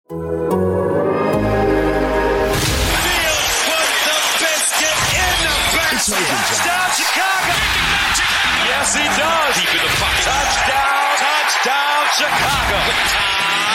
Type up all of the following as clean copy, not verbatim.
Touchdown, Chicago! Yes, he does. Deep in the pocket. Touchdown, Chicago!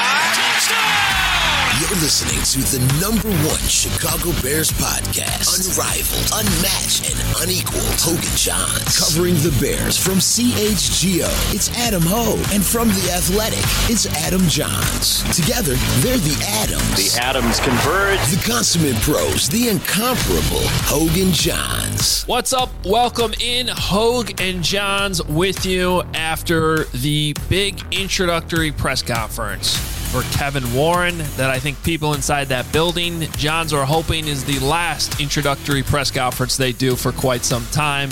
You're listening to the #1 Chicago Bears podcast. Unrivaled, unmatched, and unequaled. Hogan Johns. Covering the Bears from CHGO, it's Adam Hogue. And from The Athletic, it's Adam Johns. Together, they're the Adams. The Adams converge. The consummate pros, the incomparable Hogan Johns. What's up? Welcome in. Hogue and Johns with you after the big introductory press conference for Kevin Warren that I think people inside that building, Johns, are hoping is the last introductory press conference they do for quite some time.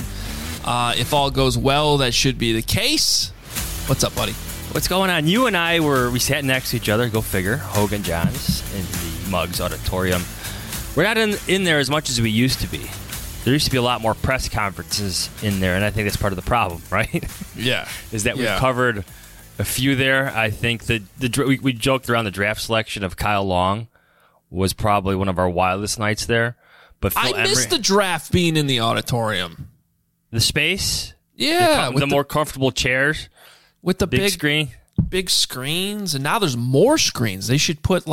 If all goes well, that should be the case. What's up, buddy? What's going on? You and I we sat next to each other, go figure, Hogan Johns in the Muggs Auditorium. We're not in there as much as we used to be. There used to be a lot more press conferences in there, and I think that's part of the problem, right? Yeah. Is that we've covered a few there. I think that we joked around the draft selection of Kyle Long was probably one of our wildest nights there. But Phil I missed the draft being in the auditorium. The space? Yeah. The more comfortable chairs. With the big screen. Big screens. And now there's more screens. They should put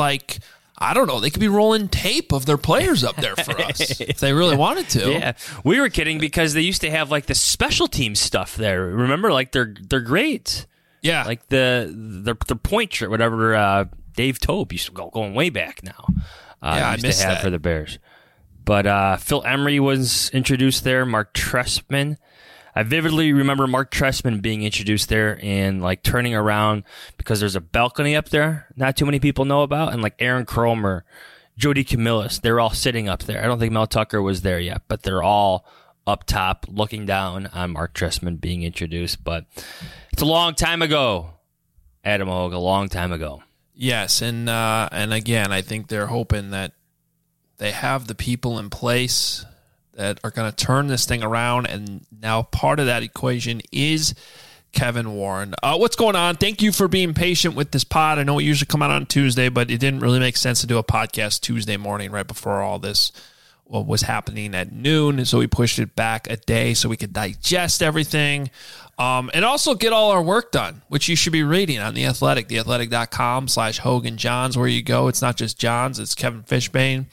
I don't know. They could be rolling tape of their players up there for us if they really wanted to. Yeah, we were kidding because they used to have the special team stuff there. Remember, they're great. Yeah, like their point shirt, whatever. Dave Tope used to going way back now. I missed that for the Bears. But Phil Emery was introduced there. Mark Trestman. I vividly remember Mark Trestman being introduced there and turning around because there's a balcony up there not too many people know about, and Aaron Cromer, Jody Camillus, they're all sitting up there. I don't think Mel Tucker was there yet, but they're all up top looking down on Mark Trestman being introduced. But it's a long time ago, Adam Hogue, a long time ago. Yes, and again, I think they're hoping that they have the people in place that are going to turn this thing around, and now part of that equation is Kevin Warren. What's going on? Thank you for being patient with this pod. I know we usually come out on Tuesday, but it didn't really make sense to do a podcast Tuesday morning right before all this was happening at noon, so we pushed it back a day so we could digest everything and also get all our work done, which you should be reading on The Athletic, theathletic.com/Hogan Johns, where you go. It's not just Johns, it's Kevin Fishbain.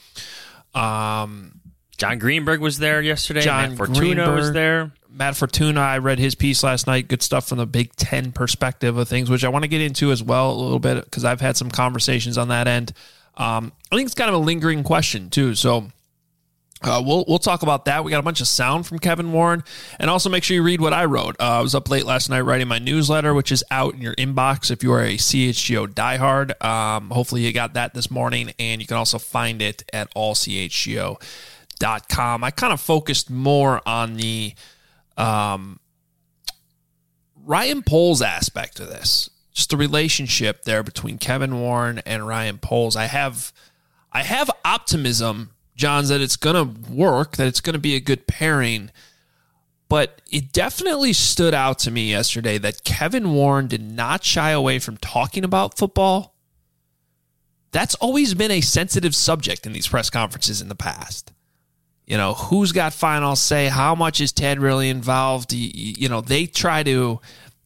John Greenberg was there yesterday. Matt Fortuna was there. Matt Fortuna, I read his piece last night. Good stuff from the Big Ten perspective of things, which I want to get into as well a little bit because I've had some conversations on that end. I think it's kind of a lingering question too. So we'll talk about that. We got a bunch of sound from Kevin Warren, and also make sure you read what I wrote. I was up late last night writing my newsletter, which is out in your inbox if you are a CHGO diehard. Hopefully you got that this morning, and you can also find it at allchgo.com. I kind of focused more on the Ryan Poles aspect of this, just the relationship there between Kevin Warren and Ryan Poles. I have optimism, Johns, that it's going to work, that it's going to be a good pairing, but it definitely stood out to me yesterday that Kevin Warren did not shy away from talking about football. That's always been a sensitive subject in these press conferences in the past. You know, who's got final say? How much is Ted really involved? They try to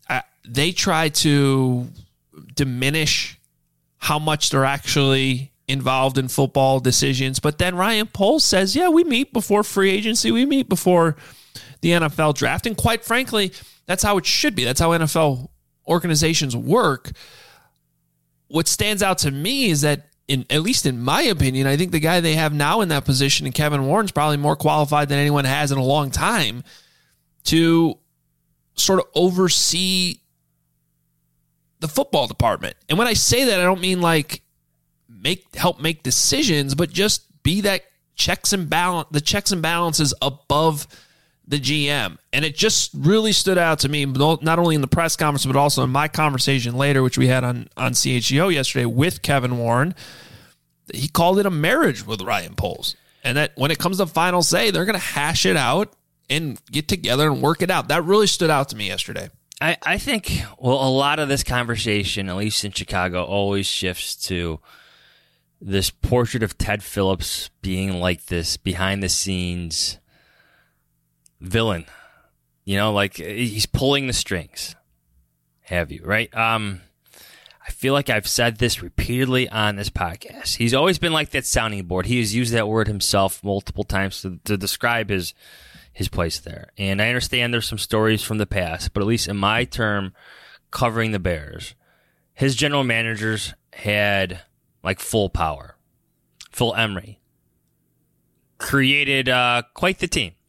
diminish how much they're actually involved in football decisions. But then Ryan Poles says, yeah, we meet before free agency. We meet before the NFL draft. And quite frankly, that's how it should be. That's how NFL organizations work. What stands out to me is that, at least in my opinion, I think the guy they have now in that position, and Kevin Warren's probably more qualified than anyone has in a long time to sort of oversee the football department. And when I say that, I don't mean help make decisions, but just be that checks and balances above the GM. And it just really stood out to me, not only in the press conference, but also in my conversation later, which we had on CHGO yesterday with Kevin Warren. He called it a marriage with Ryan Poles. And that when it comes to final say, they're going to hash it out and get together and work it out. That really stood out to me yesterday. I think, a lot of this conversation, at least in Chicago, always shifts to, this portrait of Ted Phillips being like this behind the scenes villain. Like he's pulling the strings. Have you, right? I feel like I've said this repeatedly on this podcast. He's always been like that sounding board. He has used that word himself multiple times to describe his place there. And I understand there's some stories from the past, but at least in my term covering the Bears, his general managers had like full power. Phil Emery created quite the team.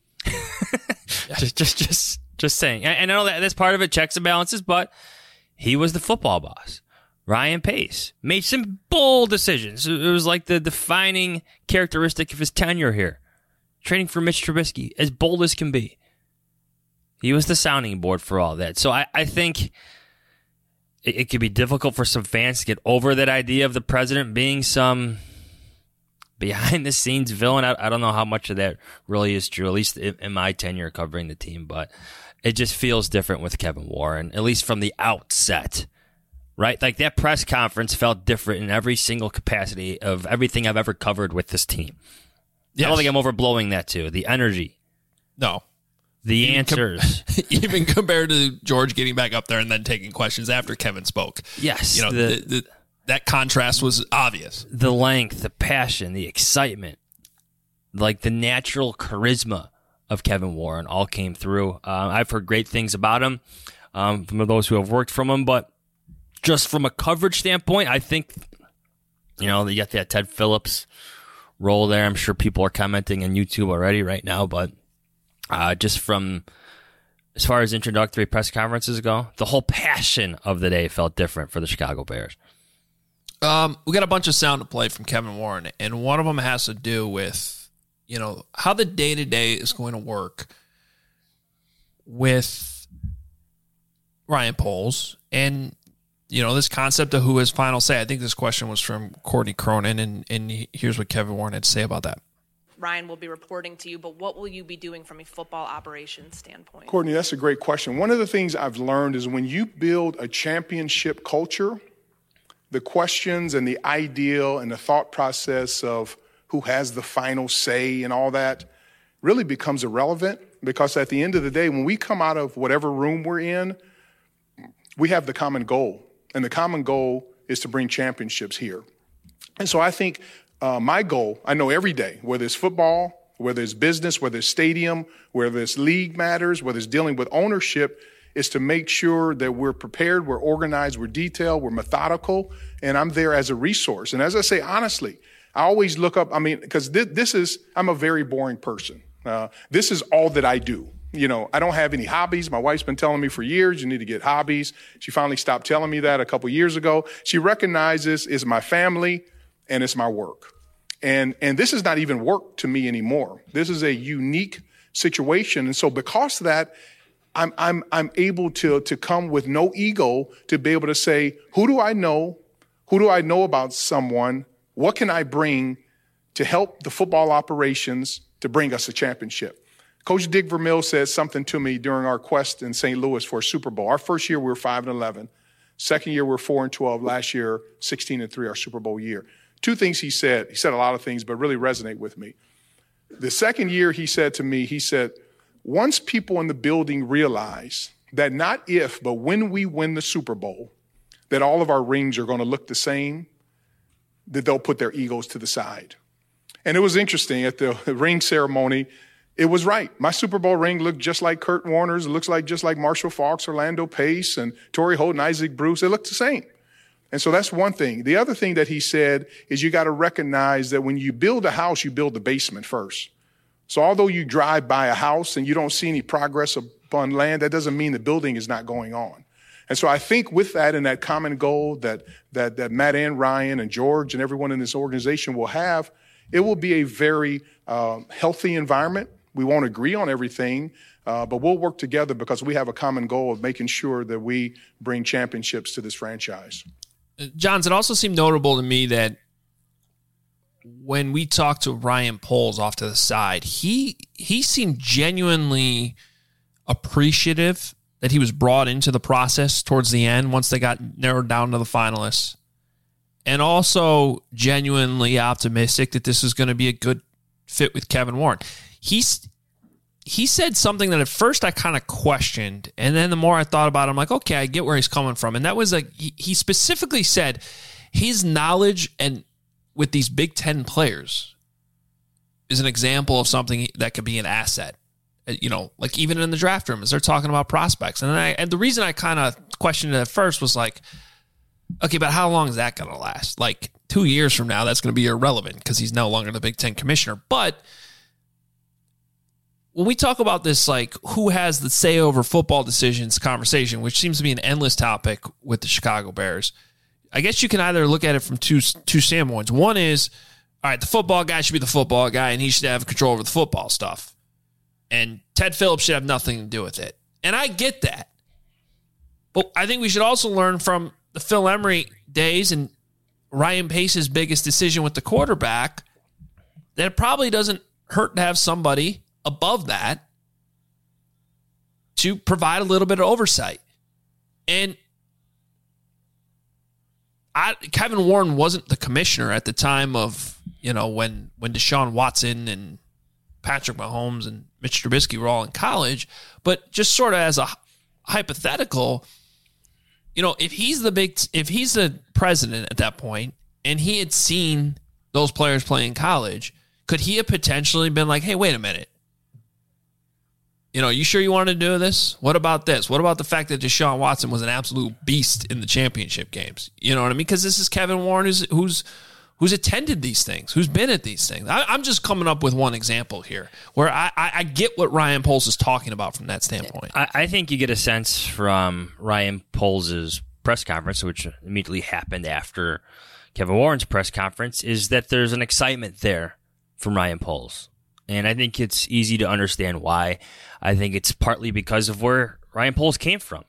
just saying. I know that that's part of it, checks and balances, but he was the football boss. Ryan Pace made some bold decisions. It was like the defining characteristic of his tenure here. Trading for Mitch Trubisky, as bold as can be. He was the sounding board for all that. So I think it could be difficult for some fans to get over that idea of the president being some behind-the-scenes villain. I don't know how much of that really is true, at least in my tenure covering the team, but it just feels different with Kevin Warren, at least from the outset. Right? Like that press conference felt different in every single capacity of everything I've ever covered with this team. Yes. I don't think I'm overblowing that too. The energy. No. The answers. Even compared to George getting back up there and then taking questions after Kevin spoke. Yes. That contrast was obvious. The length, the passion, the excitement, like the natural charisma of Kevin Warren all came through. I've heard great things about him from those who have worked from him, but just from a coverage standpoint, I think, you got that Ted Phillips role there. I'm sure people are commenting on YouTube already right now, but just from as far as introductory press conferences go, the whole passion of the day felt different for the Chicago Bears. We got a bunch of sound to play from Kevin Warren, and one of them has to do with, how the day-to-day is going to work with Ryan Poles and this concept of who has final say. I think this question was from Courtney Cronin, and here's what Kevin Warren had to say about that. Ryan will be reporting to you, but what will you be doing from a football operations standpoint? Courtney, that's a great question. One of the things I've learned is when you build a championship culture, the questions and the ideal and the thought process of who has the final say and all that really becomes irrelevant, because at the end of the day, when we come out of whatever room we're in, we have the common goal. And the common goal is to bring championships here. And so I think my goal, I know every day, whether it's football, whether it's business, whether it's stadium, whether it's league matters, whether it's dealing with ownership, is to make sure that we're prepared, we're organized, we're detailed, we're methodical, and I'm there as a resource. And as I say, honestly, I always look up, because I'm a very boring person. This is all that I do. I don't have any hobbies. My wife's been telling me for years, you need to get hobbies. She finally stopped telling me that a couple years ago. She recognizes it's my family and it's my work. And this is not even work to me anymore. This is a unique situation. And so because of that, I'm able to come with no ego to be able to say, who do I know? Who do I know about someone? What can I bring to help the football operations to bring us a championship? Coach Dick Vermeil said something to me during our quest in St. Louis for a Super Bowl. Our first year, we were 5-11. Second year, we were 4-12. Last year, 16-3, our Super Bowl year. Two things he said. He said a lot of things, but really resonate with me. The second year, he said to me, once people in the building realize that not if, but when we win the Super Bowl, that all of our rings are going to look the same, that they'll put their egos to the side. And it was interesting at the ring ceremony. It was right. My Super Bowl ring looked just like Kurt Warner's. It looks like just like Marshall Faulk's, Orlando Pace, and Torrey Holden, Isaac Bruce. It looked the same. And so that's one thing. The other thing that he said is you got to recognize that when you build a house, you build the basement first. So although you drive by a house and you don't see any progress upon land, that doesn't mean the building is not going on. And so I think with that and that common goal that Matt and Ryan and George and everyone in this organization will have, it will be a very healthy environment. We won't agree on everything, but we'll work together because we have a common goal of making sure that we bring championships to this franchise. Johns, it also seemed notable to me that when we talked to Ryan Poles off to the side, he seemed genuinely appreciative that he was brought into the process towards the end once they got narrowed down to the finalists. and also genuinely optimistic that this is going to be a good fit with Kevin Warren. He said something that at first I kind of questioned, and then the more I thought about it, I'm like, okay, I get where he's coming from. And that was like, he specifically said his knowledge and with these Big Ten players is an example of something that could be an asset. You know, like even in the draft room as they're talking about prospects. And the reason I kind of questioned it at first was like, okay, but how long is that going to last? Like 2 years from now, that's going to be irrelevant because he's no longer the Big Ten commissioner. But when we talk about this, like who has the say over football decisions conversation, which seems to be an endless topic with the Chicago Bears, I guess you can either look at it from two standpoints. One is, all right, the football guy should be the football guy and he should have control over the football stuff. And Ted Phillips should have nothing to do with it. And I get that. But I think we should also learn from the Phil Emery days and Ryan Pace's biggest decision with the quarterback that it probably doesn't hurt to have somebody above that to provide a little bit of oversight. And Kevin Warren wasn't the commissioner at the time of, you know, when Deshaun Watson and Patrick Mahomes and Mitch Trubisky were all in college, but just sort of as a hypothetical, you know, if he's the president at that point and he had seen those players play in college, could he have potentially been like, hey, wait a minute. You know, you sure you want to do this? What about this? What about the fact that Deshaun Watson was an absolute beast in the championship games? You know what I mean? Because this is Kevin Warren who's attended these things, who's been at these things. I'm just coming up with one example here where I get what Ryan Poles is talking about from that standpoint. I think you get a sense from Ryan Poles' press conference, which immediately happened after Kevin Warren's press conference, is that there's an excitement there from Ryan Poles. And I think it's easy to understand why. I think it's partly because of where Ryan Poles came from.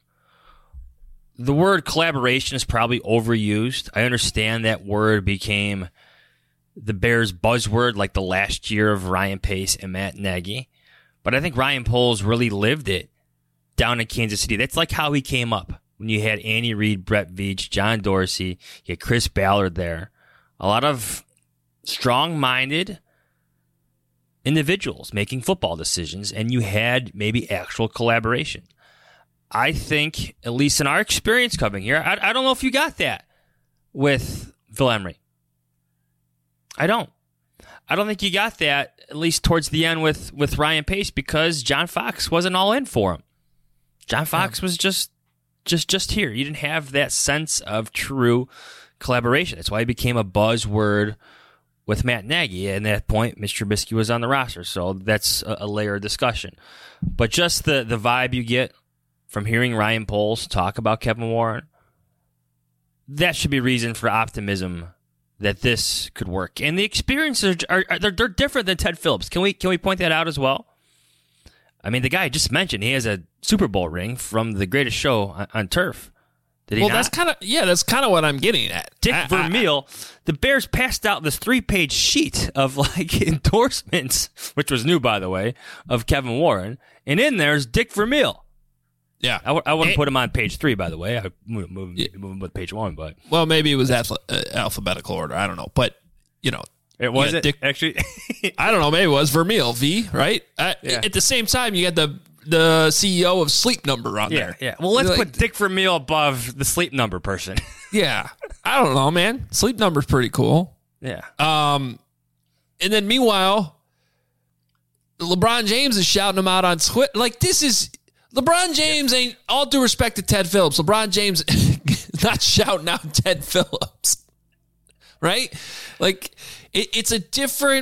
The word collaboration is probably overused. I understand that word became the Bears' buzzword like the last year of Ryan Pace and Matt Nagy. But I think Ryan Poles really lived it down in Kansas City. That's like how he came up. When you had Andy Reid, Brett Veach, John Dorsey, you had Chris Ballard there. A lot of strong-minded individuals making football decisions, and you had maybe actual collaboration. I think, at least in our experience covering here, I don't know if you got that with Phil Emery. I don't think you got that, at least towards the end with Ryan Pace, because John Fox wasn't all in for him. John Fox was just here. You didn't have that sense of true collaboration. That's why he became a buzzword with Matt Nagy. And at that point, Mr. Trubisky was on the roster. So that's a layer of discussion. But just the vibe you get from hearing Ryan Poles talk about Kevin Warren, that should be reason for optimism that this could work. And the experiences they're different than Ted Phillips. Can we point that out as well? I mean, the guy I just mentioned, he has a Super Bowl ring from the greatest show on turf. Did he not? That's kind of what I'm getting at. Dick Vermeil, the Bears passed out this 3-page sheet of like endorsements, which was new, by the way, of Kevin Warren. And in there's Dick Vermeil. Yeah, I wouldn't put him on page 3, by the way. I move him with page 1, but well, maybe it was alphabetical order. I don't know, but you know, it wasn't actually. I don't know. Maybe it was Vermeil V, right? Yeah. At the same time, you got the CEO of Sleep Number on there. Yeah. Well, let's put Dick Vermeil above the Sleep Number person. Yeah, I don't know, man. Sleep Number's pretty cool. Yeah. And then meanwhile, LeBron James is shouting him out on Twitter. Like, this is. LeBron James ain't, all due respect to Ted Phillips, LeBron James not shouting out Ted Phillips, right? Like, it's a different...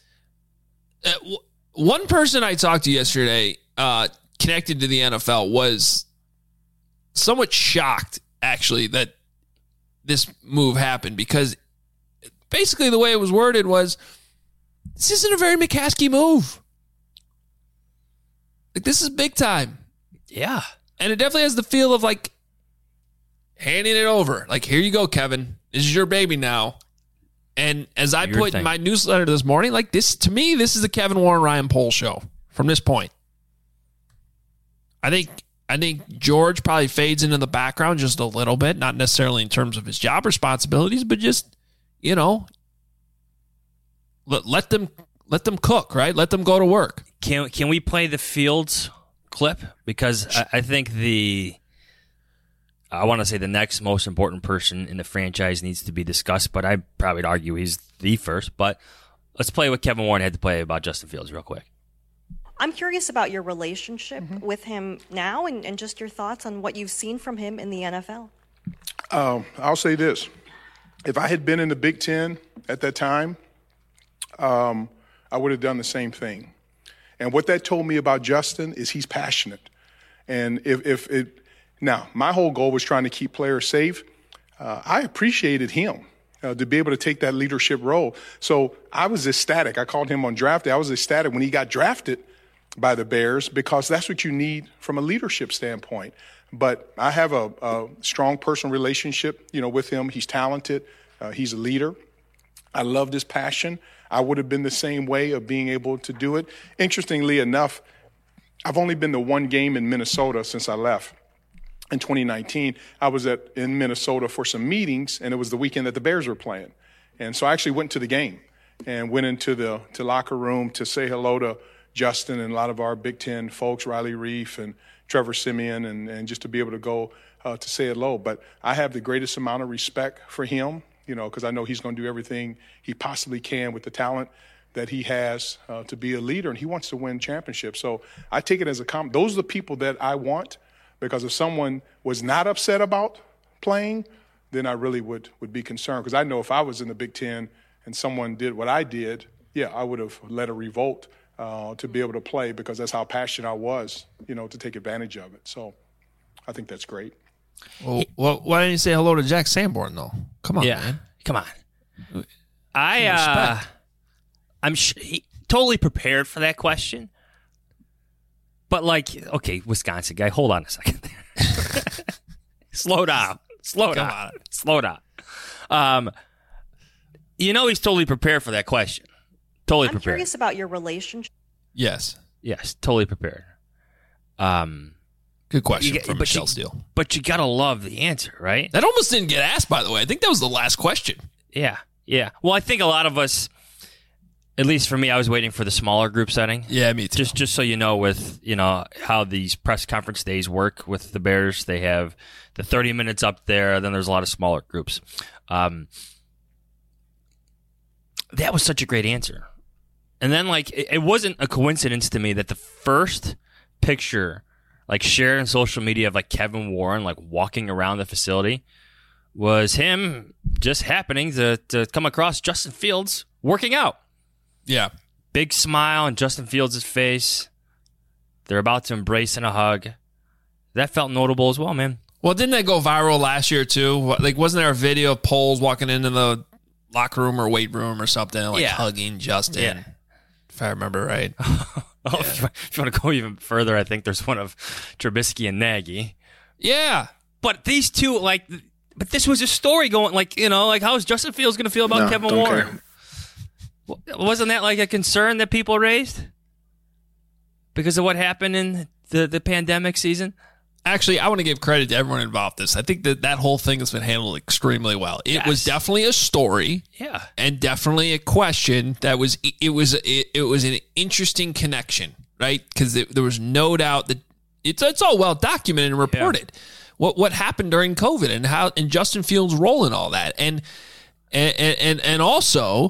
one person I talked to yesterday connected to the NFL was somewhat shocked, actually, that this move happened, because basically the way it was worded was, this isn't a very McCaskey move. Like, this is big time. Yeah. And it definitely has the feel of like handing it over. Like, here you go, Kevin. This is your baby now. And as I put in my newsletter this morning, like this, to me, this is the Kevin Warren, Ryan Poles show from this point. I think I think George probably fades into the background just a little bit, not necessarily in terms of his job responsibilities, but just, let them cook, right? Let them go to work. Can we play the Fields clip? Because I think I want to say the next most important person in the franchise needs to be discussed, but I probably would argue he's the first. But let's play what Kevin Warren had to play about Justin Fields real quick. I'm curious about your relationship with him now and just your thoughts on what you've seen from him in the NFL. I'll say this. If I had been in the Big Ten at that time, I would have done the same thing. And what that told me about Justin is he's passionate. And now, my whole goal was trying to keep players safe. I appreciated him to be able to take that leadership role. So I was ecstatic. I called him on draft day. I was ecstatic when he got drafted by the Bears because that's what you need from a leadership standpoint. But I have a strong personal relationship, with him. He's talented. He's a leader. I loved his passion. I would have been the same way of being able to do it. Interestingly enough, I've only been to one game in Minnesota since I left. In 2019, I was in Minnesota for some meetings, and it was the weekend that the Bears were playing. And so I actually went to the game and went into the locker room to say hello to Justin and a lot of our Big Ten folks, Riley Reif and Trevor Siemian, and just to be able to go to say hello. But I have the greatest amount of respect for him, because I know he's going to do everything he possibly can with the talent that he has to be a leader, and he wants to win championships. So I take it as a compliment. Those are the people that I want, because if someone was not upset about playing, then I really would be concerned. Because I know if I was in the Big Ten and someone did what I did, I would have led a revolt to be able to play, because that's how passionate I was, to take advantage of it. So I think that's great. Well, why didn't you say hello to Jack Sanborn, though? Come on, man. Come on. I'm totally prepared for that question. But, okay, Wisconsin guy, hold on a second there. Slow down. He's totally prepared for that question. Totally prepared. I'm curious about your relationship. Yes, totally prepared. Good question from Michelle Steele. But you got to love the answer, right? That almost didn't get asked, by the way. I think that was the last question. Yeah. Well, I think a lot of us, at least for me, I was waiting for the smaller group setting. Yeah, me too. Just so you know, with how these press conference days work with the Bears, they have the 30 minutes up there. Then there's a lot of smaller groups. That was such a great answer. And then it wasn't a coincidence to me that the first picture shared on social media of Kevin Warren walking around the facility was him just happening to come across Justin Fields working out. Yeah. Big smile on Justin Fields' face. They're about to embrace and a hug. That felt notable as well, man. Well, didn't that go viral last year, too? Wasn't there a video of Poles walking into the locker room or weight room or something, hugging Justin? Yeah. If I remember right. If you want to go even further, I think there's one of Trubisky and Nagy. Yeah. But these two, but this was a story going, how is Justin Fields going to feel about Kevin Warren? Care. Wasn't that a concern that people raised because of what happened in the pandemic season? Actually, I want to give credit to everyone involved in this. I think that whole thing has been handled extremely well. It was definitely a story, and definitely a question that was an interesting connection, right? Because there was no doubt that it's all well documented and reported what happened during COVID and Justin Fields' role in all that, and also,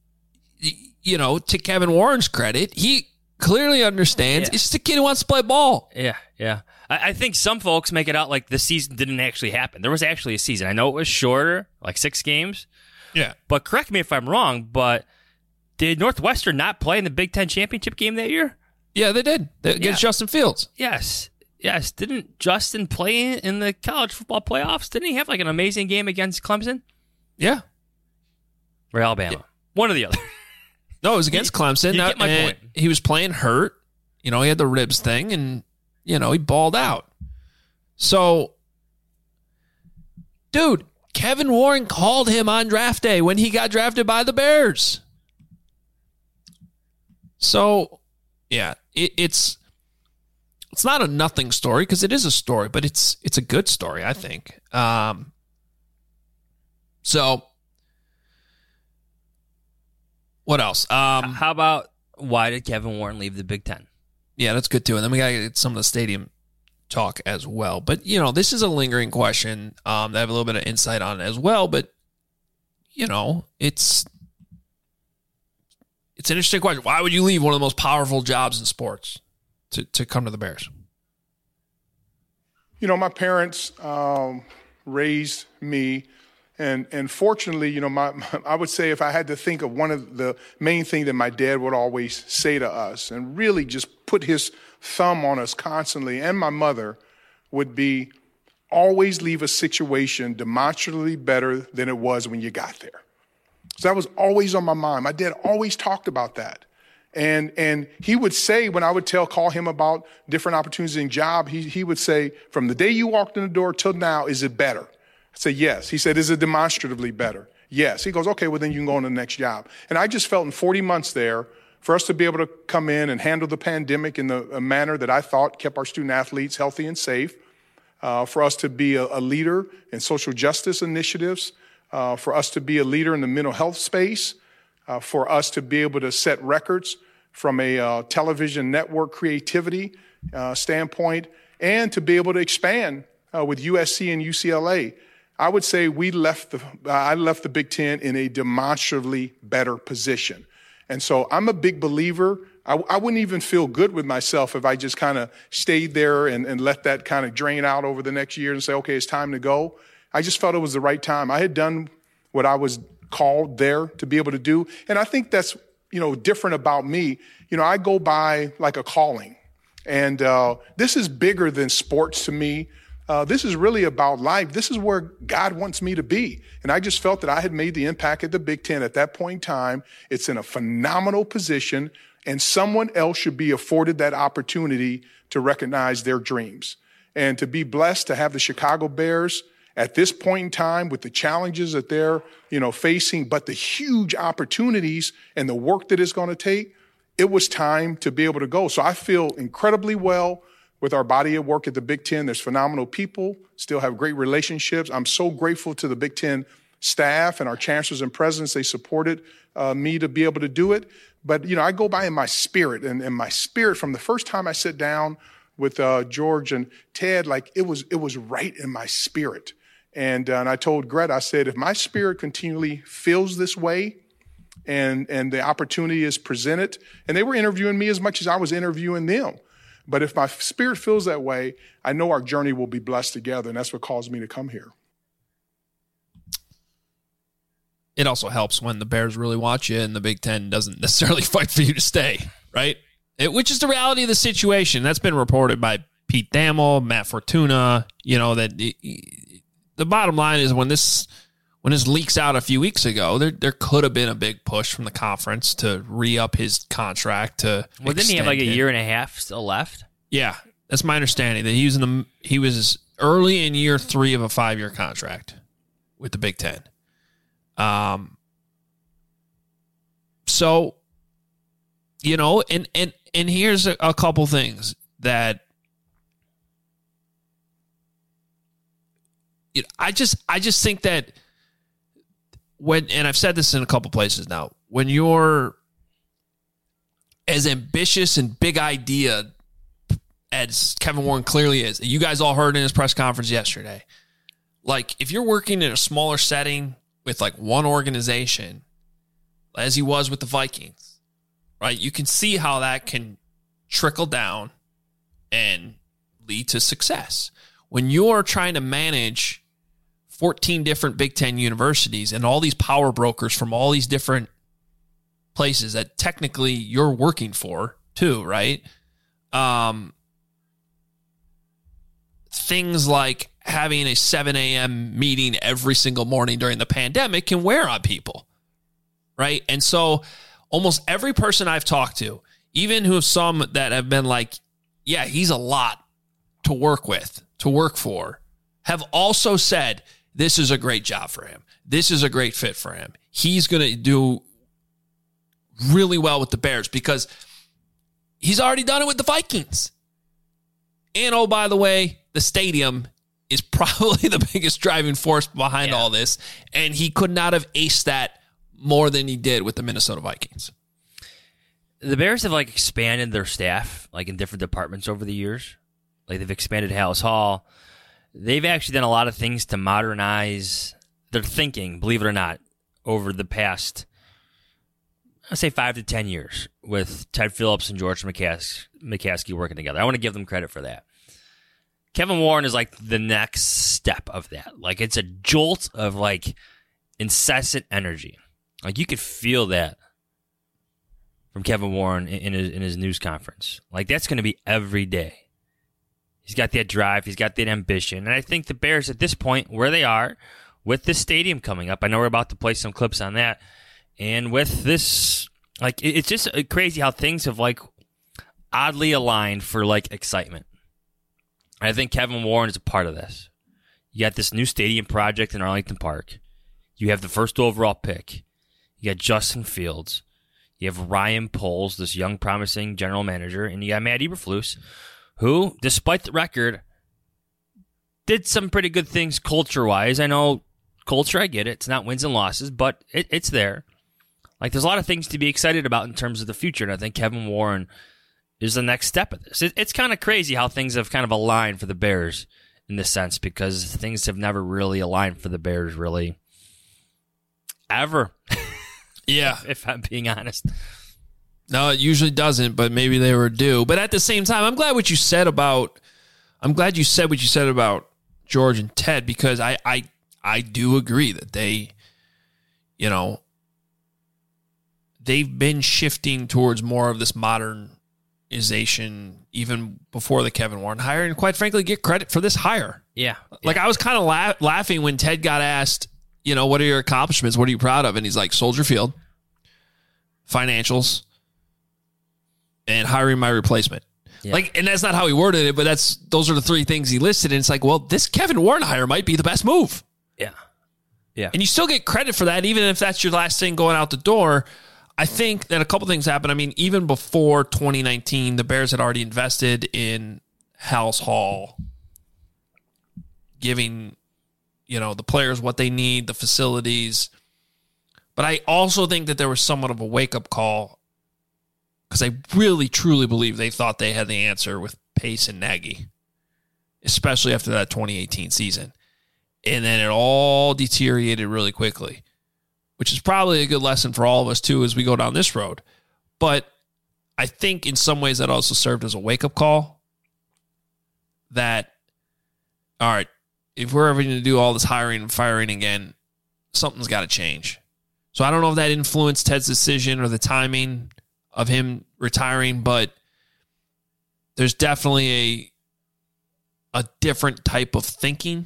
to Kevin Warren's credit, he clearly understands it's just a kid who wants to play ball. Yeah. I think some folks make it out like the season didn't actually happen. There was actually a season. I know it was shorter, 6 games. Yeah. But correct me if I'm wrong, but did Northwestern not play in the Big Ten championship game that year? Yeah, they did. Against Justin Fields. Yes. Didn't Justin play in the college football playoffs? Didn't he have an amazing game against Clemson? Yeah. Or Alabama. Yeah. One or the other. No, it was against Clemson. You get my point. He was playing hurt. He had the ribs thing, and he balled out. So, dude, Kevin Warren called him on draft day when he got drafted by the Bears. So, yeah, it's It's not a nothing story because it is a story, but it's a good story, I think. So what else? How about why did Kevin Warren leave the Big Ten? Yeah, that's good too. And then we got to get some of the stadium talk as well. But, this is a lingering question that I have a little bit of insight on as well. But, it's an interesting question. Why would you leave one of the most powerful jobs in sports to come to the Bears? My parents raised me. And fortunately, I would say if I had to think of one of the main things that my dad would always say to us and really just put his thumb on us constantly, and my mother, would be always leave a situation demonstrably better than it was when you got there. So that was always on my mind. My dad always talked about that. And he would say, when I would call him about different opportunities in job, he would say, from the day you walked in the door till now, is it better? I said, yes. He said, is it demonstratively better? Yes. He goes, okay, well, then you can go on to the next job. And I just felt in 40 months there, for us to be able to come in and handle the pandemic in a manner that I thought kept our student athletes healthy and safe, for us to be a leader in social justice initiatives, for us to be a leader in the mental health space, for us to be able to set records from a television network creativity standpoint, and to be able to expand with USC and UCLA. I would say I left the Big Ten in a demonstrably better position. And so I'm a big believer. I wouldn't even feel good with myself if I just kind of stayed there and let that kind of drain out over the next year and say, okay, it's time to go. I just felt it was the right time. I had done what I was called there to be able to do. And I think that's, different about me. I go by like a calling. And this is bigger than sports to me. This is really about life. This is where God wants me to be. And I just felt that I had made the impact at the Big Ten at that point in time. It's in a phenomenal position, and someone else should be afforded that opportunity to recognize their dreams. And to be blessed to have the Chicago Bears at this point in time with the challenges that they're, facing, but the huge opportunities and the work that it's going to take, it was time to be able to go. So I feel incredibly well with our body of work at the Big Ten. There's phenomenal people, still have great relationships. I'm so grateful to the Big Ten staff and our chancellors and presidents. They supported me to be able to do it. But, I go by in my spirit, and my spirit from the first time I sat down with George and Ted, like it was right in my spirit. And I told Greta, I said, if my spirit continually feels this way and the opportunity is presented, and they were interviewing me as much as I was interviewing them. But if my spirit feels that way, I know our journey will be blessed together, and that's what caused me to come here. It also helps when the Bears really want you and the Big Ten doesn't necessarily fight for you to stay, right? Which is the reality of the situation. That's been reported by Pete Thamel, Matt Fortuna, that the bottom line is when this leaks out a few weeks ago, there could have been a big push from the conference to re-up his contract to. Well, didn't he have like a year and a half still left? Yeah, that's my understanding. That he was early in year 3 of a 5-year contract with the Big Ten. So, and here's a couple things that I just think that. And I've said this in a couple places now, when you're as ambitious and big idea as Kevin Warren clearly is, you guys all heard in his press conference yesterday, like if you're working in a smaller setting with like one organization, as he was with the Vikings, right? You can see how that can trickle down and lead to success. When you're trying to manage 14 different Big Ten universities and all these power brokers from all these different places that technically you're working for too, right? Things like having a 7 a.m. meeting every single morning during the pandemic can wear on people, right? And so almost every person I've talked to, even who have some that have been like, yeah, he's a lot to work with, to work for, have also said, this is a great job for him. This is a great fit for him. He's going to do really well with the Bears because he's already done it with the Vikings. And, oh, by the way, the stadium is probably the biggest driving force behind all this. And he could not have aced that more than he did with the Minnesota Vikings. The Bears have expanded their staff in different departments over the years. They've expanded Halas Hall. They've actually done a lot of things to modernize their thinking, believe it or not, over the past, I'd say 5 to 10 years with Ted Phillips and George McCaskey working together. I want to give them credit for that. Kevin Warren is the next step of that. It's a jolt of incessant energy. You could feel that from Kevin Warren in his news conference. That's going to be every day. He's got that drive. He's got that ambition. And I think the Bears at this point, where they are, with this stadium coming up, I know we're about to play some clips on that, and with this, it's just crazy how things have, oddly aligned for, excitement. I think Kevin Warren is a part of this. You got this new stadium project in Arlington Park. You have the first overall pick. You got Justin Fields. You have Ryan Poles, this young, promising general manager, and you got Matt Eberflus, who, despite the record, did some pretty good things culture-wise. I know culture, I get it. It's not wins and losses, but it's there. There's a lot of things to be excited about in terms of the future, and I think Kevin Warren is the next step of this. It's kind of crazy how things have kind of aligned for the Bears in this sense, because things have never really aligned for the Bears, really, ever. Yeah. If I'm being honest. No, it usually doesn't, but maybe they were due. But at the same time, I'm glad you said what you said about George and Ted, because I do agree that they've been shifting towards more of this modernization even before the Kevin Warren hire, and quite frankly, get credit for this hire. Yeah. I was kind of laughing when Ted got asked, what are your accomplishments? What are you proud of? And he's like, Soldier Field, financials, and hiring my replacement. Yeah. And that's not how he worded it, but those are the three things he listed. And it's this Kevin Warren hire might be the best move. Yeah. Yeah. And you still get credit for that, even if that's your last thing going out the door. I think that a couple things happened. I mean, even before 2019, the Bears had already invested in Halas Hall, giving, the players what they need, the facilities. But I also think that there was somewhat of a wake-up call, because I really, truly believe they thought they had the answer with Pace and Nagy, especially after that 2018 season. And then it all deteriorated really quickly, which is probably a good lesson for all of us, too, as we go down this road. But I think in some ways that also served as a wake-up call that, all right, if we're ever going to do all this hiring and firing again, something's got to change. So I don't know if that influenced Ted's decision or the timing of him retiring, but there's definitely a different type of thinking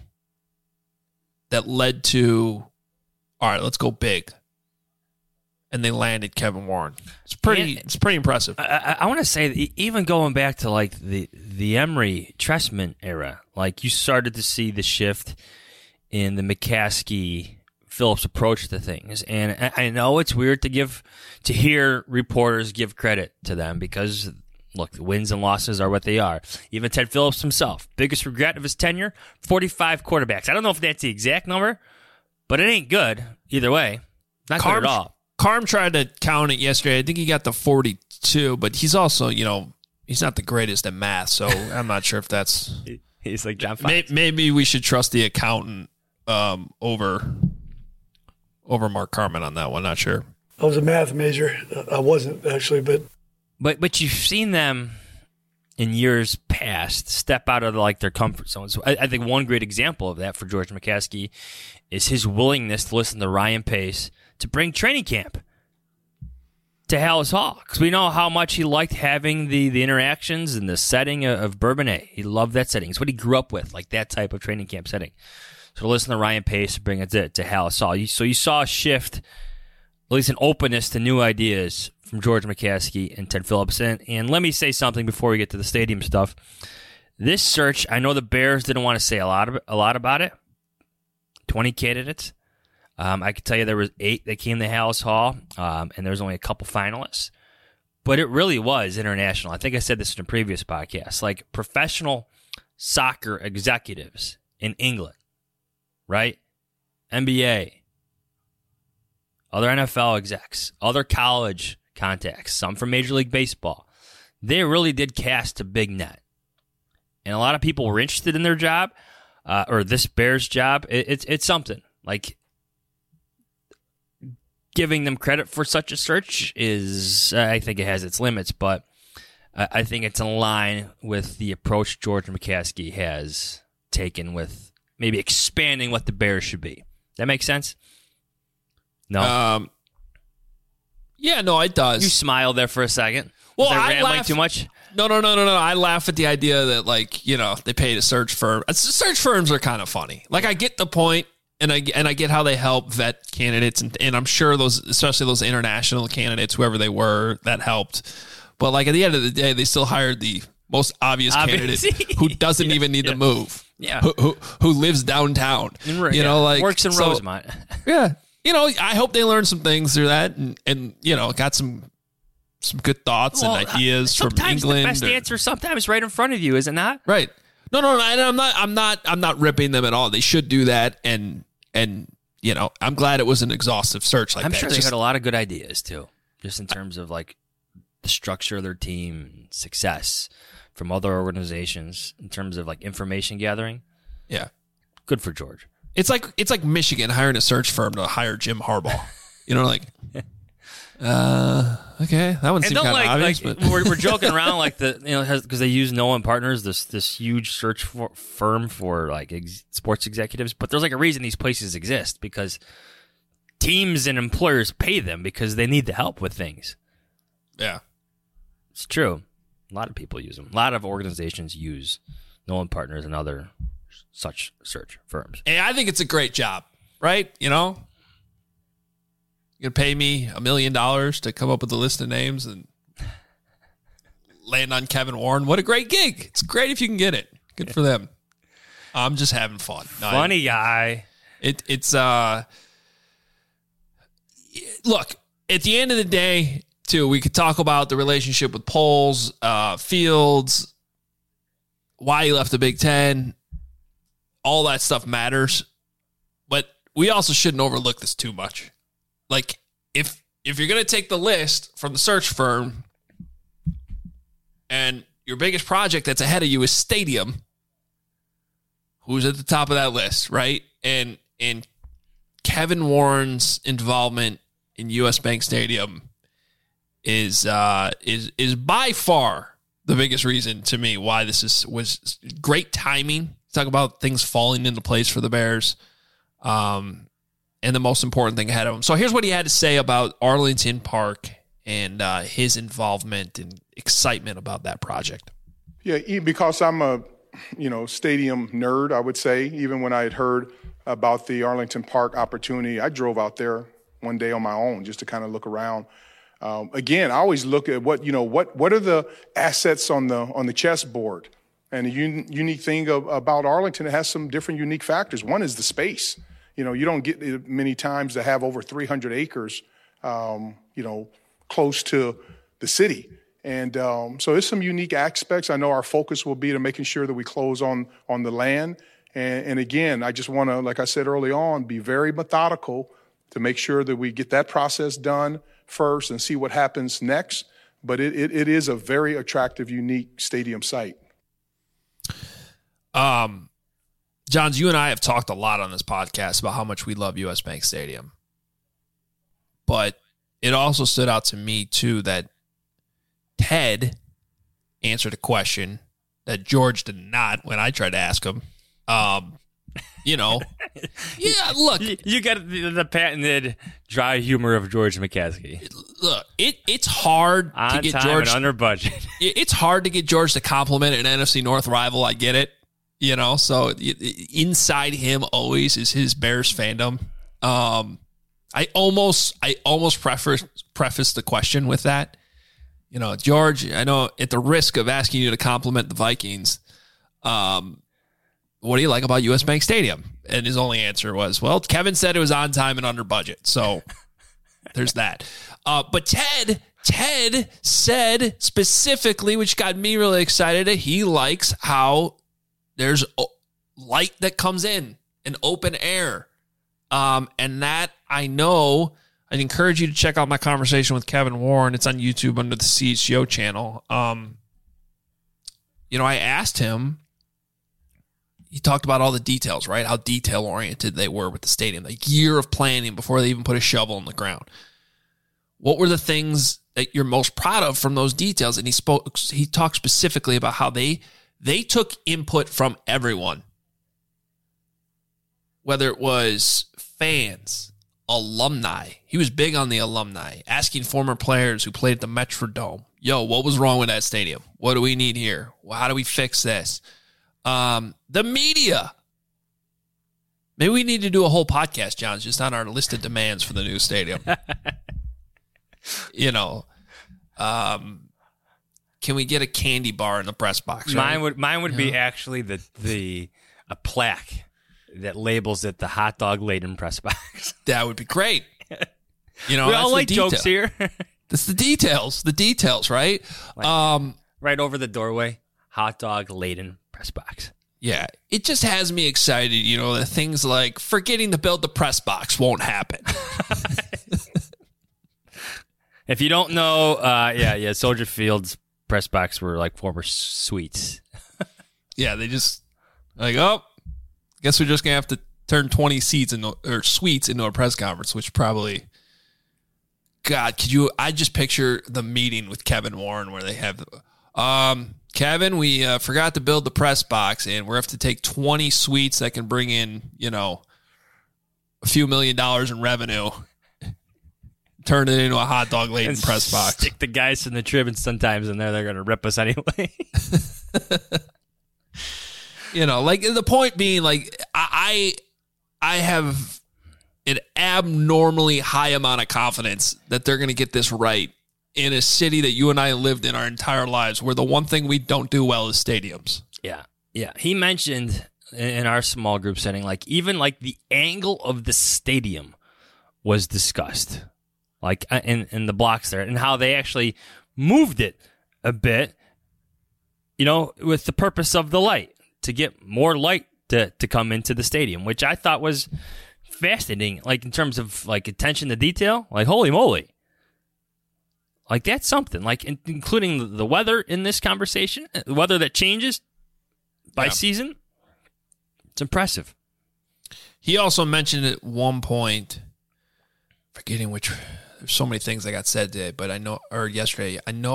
that led to, all right, let's go big. And they landed Kevin Warren. It's pretty impressive. I want to say that even going back to the Emery Trestman era, you started to see the shift in the McCaskey Phillips approach to things. And I know it's weird to hear reporters give credit to them, because look, the wins and losses are what they are. Even Ted Phillips himself, biggest regret of his tenure, 45 quarterbacks. I don't know if that's the exact number, but it ain't good either way. Not good at all. Carm tried to count it yesterday. I think he got the 42, but he's also, he's not the greatest at math, so I'm not sure if that's... He's like John Fox. Maybe we should trust the accountant over Mark Carman on that one. Not sure. I was a math major. I wasn't, actually, But you've seen them in years past step out of their comfort zones. So I think one great example of that for George McCaskey is his willingness to listen to Ryan Pace to bring training camp to Halas Hall, because we know how much he liked having the interactions and the setting of Bourbonnais. He loved that setting. It's what he grew up with, that type of training camp setting. So listen to Ryan Pace bring it to Halas Hall. So you saw a shift, at least an openness to new ideas from George McCaskey and Ted Phillips. And let me say something before we get to the stadium stuff. This search, I know the Bears didn't want to say a lot about it. 20 candidates. I could tell you there was 8 that came to Halas Hall, and there was only a couple finalists. But it really was international. I think I said this in a previous podcast. Professional soccer executives in England, right? NBA, other NFL execs, other college contacts, some from Major League Baseball. They really did cast a big net. And a lot of people were interested in their job, or this Bears job. It's something. Like, giving them credit for such a search is, I think it has its limits, but I think it's in line with the approach George McCaskey has taken with maybe expanding what the Bears should be. That makes sense? No? Yeah, no, it does. You smiled there for a second. Well, Was I I rambling laugh- too much? No. I laugh at the idea that, like, you know, they paid a search firm. Search firms are kind of funny. Like, I get the point, and I get how they help vet candidates, and I'm sure those, especially those international candidates, whoever they were, that helped. But, like, at the end of the day, they still hired the most obvious candidate who doesn't even need to move. Yeah. Who lives downtown. You know, like, works in Rosemont. Yeah. You know, I hope they learned some things through that, and you know, got some good thoughts and ideas from England. The best answer sometimes right in front of you, is it not? Right. No. I'm not ripping them at all. They should do that, and you know, I'm glad it was an exhaustive search like that. I'm sure they had a lot of good ideas too, just in terms of like the structure of their team, success from other organizations, in terms of like information gathering. Yeah. Good for George. It's like Michigan hiring a search firm to hire Jim Harbaugh. You know, like, okay, that one seemed kind of obvious. Like, but we're joking around like because they use Nolan Partners, this huge search firm for like sports executives. But there's like a reason these places exist, because teams and employers pay them because they need the help with things. Yeah, it's true. A lot of people use them. A lot of organizations use Nolan Partners and other such search firms. Hey, I think it's a great job, right? You know, you're gonna pay me $1 million to come up with a list of names and land on Kevin Warren. What a great gig! It's great if you can get it. Good for them. I'm just having fun. Funny guy. It's look, at the end of the day, too, we could talk about the relationship with Poles, Fields, why he left the Big Ten. All that stuff matters, but we also shouldn't overlook this too much. Like, if you're going to take the list from the search firm and your biggest project that's ahead of you is Stadium, who's at the top of that list, right? And Kevin Warren's involvement in US Bank Stadium is by far the biggest reason to me why this was great timing. Talk about things falling into place for the Bears, and the most important thing ahead of him. So here's what he had to say about Arlington Park and his involvement and excitement about that project. Yeah, because I'm a stadium nerd, I would say. Even when I had heard about the Arlington Park opportunity, I drove out there one day on my own just to kind of look around. Again, I always look at what are the assets on the chessboard. And the unique thing about Arlington, it has some different unique factors. One is the space. You know, you don't get many times to have over 300 acres, close to the city. And so there's some unique aspects. I know our focus will be to making sure that we close on the land. And again, I just want to, like I said early on, be very methodical to make sure that we get that process done first and see what happens next. But it is a very attractive, unique stadium site. Johns, you and I have talked a lot on this podcast about how much we love US Bank Stadium. But it also stood out to me, too, that Ted answered a question that George did not when I tried to ask him. Yeah, look. You got the patented dry humor of George McCaskey. Look, it's hard on to get time George and under budget. It's hard to get George to compliment an NFC North rival. I get it. So inside him always is his Bears fandom. I almost preface the question with that. George, I know at the risk of asking you to compliment the Vikings, what do you like about US Bank Stadium? And his only answer was, well, Kevin said it was on time and under budget. So there's that. But Ted said specifically, which got me really excited, he likes how There's light that comes in, an open air. And that I know, I'd encourage you to check out my conversation with Kevin Warren. It's on YouTube under the CHGO channel. I asked him, he talked about all the details, right? How detail-oriented they were with the stadium. Like year of planning before they even put a shovel in the ground. What were the things that you're most proud of from those details? And he talked specifically about how they took input from everyone. Whether it was fans, alumni. He was big on the alumni, asking former players who played at the Metrodome, yo, what was wrong with that stadium? What do we need here? Well, how do we fix this? The media. Maybe we need to do a whole podcast, John, just on our list of demands for the new stadium. Can we get a candy bar in the press box? Right? Mine would be actually a plaque that labels it the hot dog laden press box. That would be great. We all like jokes here. That's the details, right? Right over the doorway, hot dog laden press box. Yeah, it just has me excited, that things like forgetting to build the press box won't happen. If you don't know, Soldier Field's press box were like former suites. Yeah, they just guess we're just going to have to turn 20 seats or suites into a press conference, which probably, God, I just picture the meeting with Kevin Warren where they have, Kevin, we forgot to build the press box and we're going to have to take 20 suites that can bring in, a few $1 million in revenue, turn it into a hot dog laden press box. Stick the guys in the Tribune sometimes in there. They're going to rip us anyway. The point being, I have an abnormally high amount of confidence that they're going to get this right in a city that you and I lived in our entire lives, where the one thing we don't do well is stadiums. Yeah. Yeah. He mentioned in our small group setting, even the angle of the stadium was discussed, in the blocks there, and how they actually moved it a bit, with the purpose of the light, to get more light to come into the stadium, which I thought was fascinating, in terms of attention to detail. Holy moly. That's something, including the weather in this conversation, the weather that changes by season. It's impressive. He also mentioned at one point, forgetting which, there's so many things that got said today, but yesterday,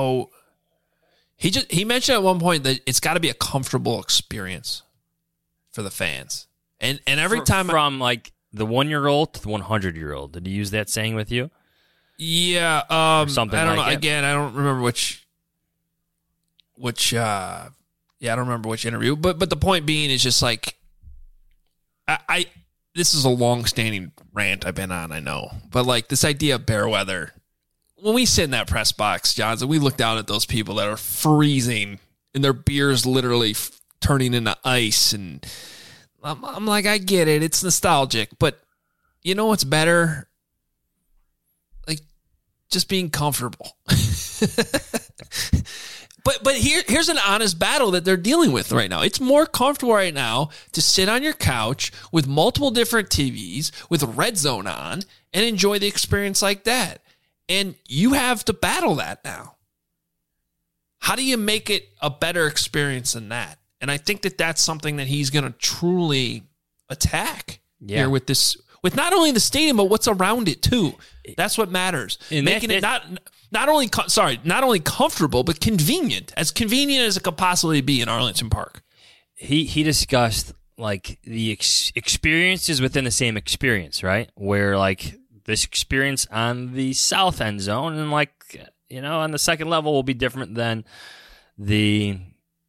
he mentioned at one point that it's got to be a comfortable experience for the fans. And every time from the 1-year-old to the 100-year-old. Did he use that saying with you? Yeah, something I don't know. It. Again, I don't remember which I don't remember which interview, but the point being is just this is a long-standing rant I've been on, I know. But this idea of bear weather, when we sit in that press box, Johnson, we look down at those people that are freezing and their beer's literally turning into ice. And I'm like, I get it. It's nostalgic. But you know what's better? Just being comfortable. But here's an honest battle that they're dealing with right now. It's more comfortable right now to sit on your couch with multiple different TVs with a Red Zone on and enjoy the experience like that. And you have to battle that now. How do you make it a better experience than that? And I think that that's something that he's going to truly attack here with this, with not only the stadium, but what's around it too. That's what matters. And making it not only comfortable, but convenient. As convenient as it could possibly be in Arlington Park. He discussed the experiences within the same experience, right? Where this experience on the south end zone and on the second level will be different than the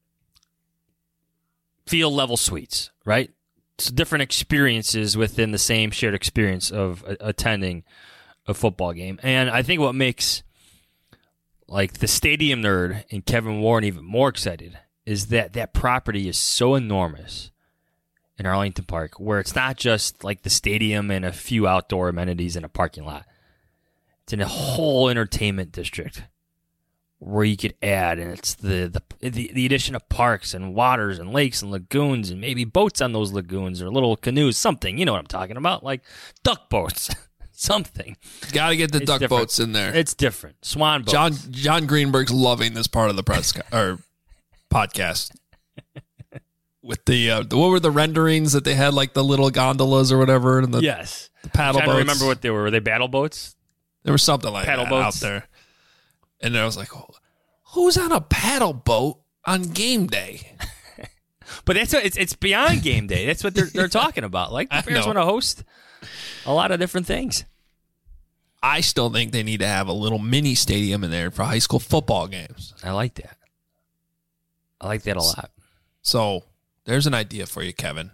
field level suites, right? It's different experiences within the same shared experience of attending a football game. And I think what makes the stadium nerd and Kevin Warren even more excited is that property is so enormous in Arlington Park, where it's not just the stadium and a few outdoor amenities in a parking lot. It's in a whole entertainment district where you could add, and it's the addition of parks and waters and lakes and lagoons and maybe boats on those lagoons or little canoes, something. You know what I'm talking about, like duck boats, something. Got to get the duck boats in there. It's different. Swan boats. John Greenberg's loving this part of the press or podcast. With the what were the renderings that they had, like the little gondolas or whatever, and the paddle boats. I remember what they were. Were they battle boats? There was something like paddle that boats out there. And I was like, who's on a paddle boat on game day? But that's what it's beyond game day. That's what they're talking about. Like the Bears want to host a lot of different things. I still think they need to have a little mini stadium in there for high school football games. I like that. I like that a lot. So there's an idea for you, Kevin.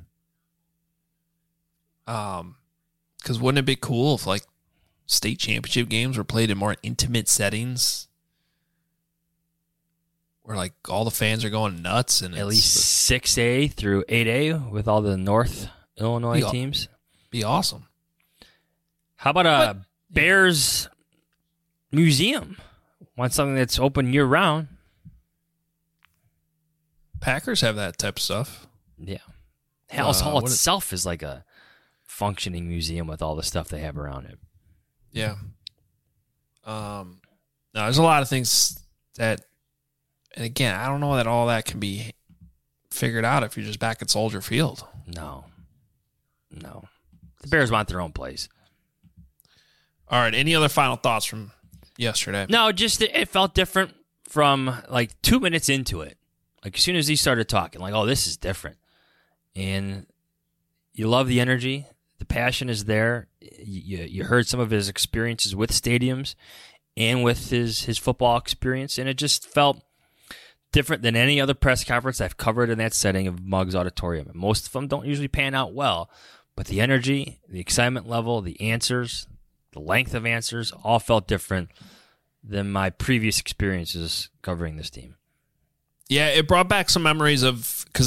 Because wouldn't it be cool if like state championship games were played in more intimate settings? Where like all the fans are going nuts, and at least 6A through 8A with all the North Illinois teams. Be awesome. How about a Bears museum? Want something that's open year round? Packers have that type of stuff. Yeah, Halas Hall itself is like a functioning museum with all the stuff they have around it. Yeah. No, there's a lot of things that. And again, I don't know that all that can be figured out if you're just back at Soldier Field. No. The Bears want their own place. All right. Any other final thoughts from yesterday? No, just it felt different from like 2 minutes into it. Like as soon as he started talking, like, oh, this is different. And you love the energy. The passion is there. You heard some of his experiences with stadiums and with his football experience, and it just felt different than any other press conference I've covered in that setting of Muggs Auditorium. And most of them don't usually pan out well, but the energy, the excitement level, the answers, the length of answers all felt different than my previous experiences covering this team. Yeah, it brought back some memories of, because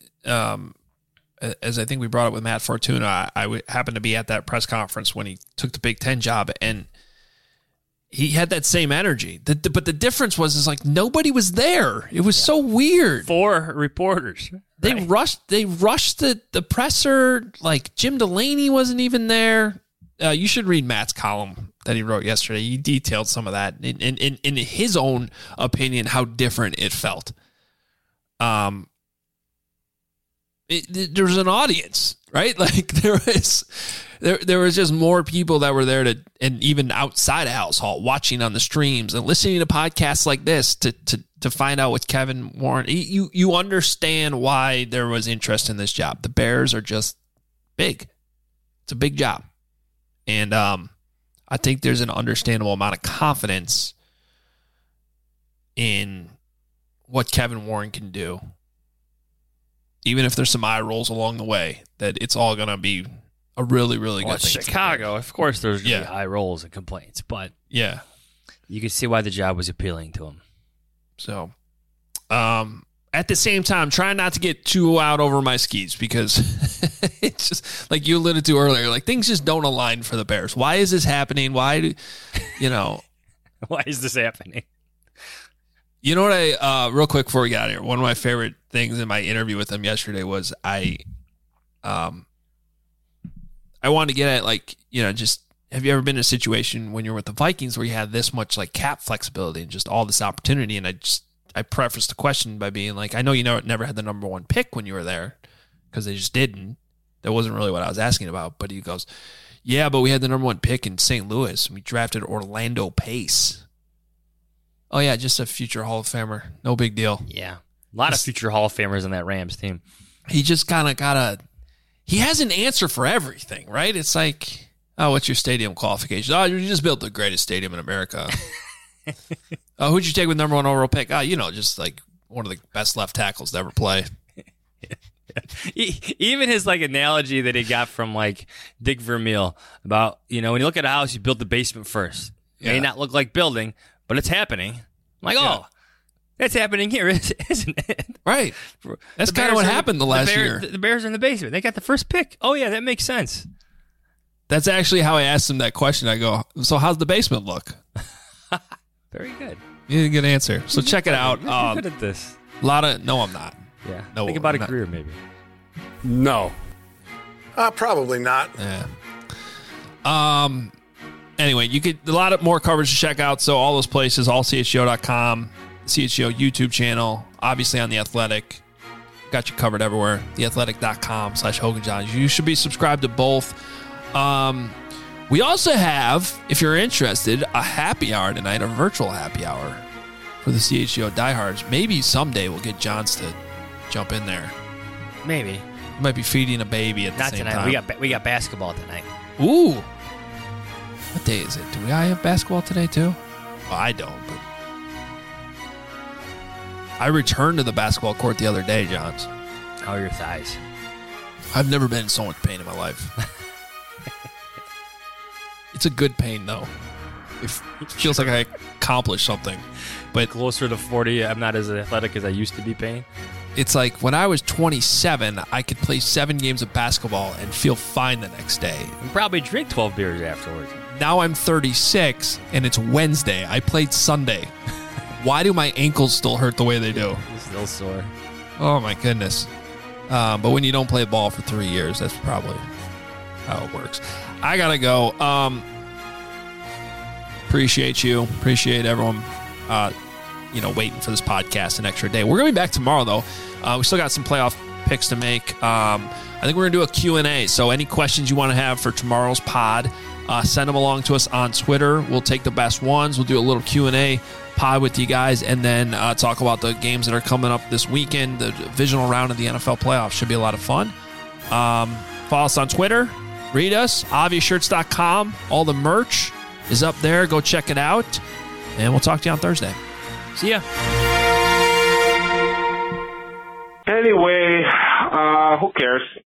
as I think we brought up with Matt Fortuna, I happened to be at that press conference when he took the Big Ten job, and he had that same energy. But the difference was like nobody was there. It was so weird. 4 reporters. They rushed the presser. Like Jim Delaney wasn't even there. You should read Matt's column that he wrote yesterday. He detailed some of that in his own opinion, how different it felt. There was an audience, right? Like there was just more people that were there and even outside of Halas Hall watching on the streams and listening to podcasts like this to find out what Kevin Warren. You understand why there was interest in this job. The Bears are just big. It's a big job, and I think there's an understandable amount of confidence in what Kevin Warren can do. Even if there's some eye rolls along the way, that it's all going to be a really, really good thing. Chicago, of course there's going to be eye rolls and complaints, but you can see why the job was appealing to him. So, at the same time, trying not to get too out over my skis because it's just, like you alluded to earlier, like things just don't align for the Bears. Why is this happening? Why is this happening? You know what real quick before we got here, one of my favorite things in my interview with him yesterday was I wanted to get at, like, just have you ever been in a situation when you're with the Vikings where you have this much like cap flexibility and just all this opportunity? And I prefaced the question by being like, I know you never had the number 1 pick when you were there because they just didn't. That wasn't really what I was asking about. But he goes, yeah, but we had the number 1 pick in St. Louis. We drafted Orlando Pace. Oh, yeah, just a future Hall of Famer. No big deal. Yeah. A lot of future Hall of Famers on that Rams team. He just kind of he has an answer for everything, right? It's like, oh, what's your stadium qualification? Oh, you just built the greatest stadium in America. Oh, who'd you take with number 1 overall pick? Oh, just like one of the best left tackles to ever play. Even his like analogy that he got from like Dick Vermeil about, when you look at a house, you build the basement first. It may not look like building, but it's happening. I'm like, that's happening here, isn't it? Right. That's kind of what happened the last year. The Bears are in the basement. They got the first pick. Oh, yeah, that makes sense. That's actually how I asked him that question. I go, so how's the basement look? Very good. You didn't get an answer. So check it out. You're good at this. No, I'm not. Yeah. No, Think about I'm a not. career, maybe. No. Probably not. Yeah. Anyway, you get a lot of more coverage to check out. So all those places, allchgo.com, CHGO YouTube channel, obviously on The Athletic. Got you covered everywhere. theathletic.com/Hogan Johns. You should be subscribed to both. We also have, if you're interested, a happy hour tonight, a virtual happy hour for the CHGO diehards. Maybe someday we'll get Johns to jump in there. Maybe. He might be feeding a baby at the Not same tonight. time. We got basketball tonight. Ooh. What day is it? Do I have basketball today too? Well, I don't, but I returned to the basketball court the other day, Johns. How are your thighs? I've never been in so much pain in my life. It's a good pain, though. It feels like I accomplished something. But closer to 40, I'm not as athletic as I used to be, Payne. It's like when I was 27, I could play 7 games of basketball and feel fine the next day. And probably drink 12 beers afterwards. Now I'm 36, and it's Wednesday. I played Sunday. Why do my ankles still hurt the way they do? You're still sore. Oh, my goodness. But when you don't play ball for 3 years, that's probably how it works. I got to go. Appreciate you. Appreciate everyone, waiting for this podcast an extra day. We're going to be back tomorrow, though. We still got some playoff picks to make. I think we're going to do a Q&A. So any questions you want to have for tomorrow's pod, send them along to us on Twitter. We'll take the best ones. We'll do a little Q&A pod with you guys, and then talk about the games that are coming up this weekend. The divisional round of the NFL playoffs should be a lot of fun. Follow us on Twitter. Read us, obviousshirts.com. All the merch is up there. Go check it out, and we'll talk to you on Thursday. See ya. Anyway, who cares?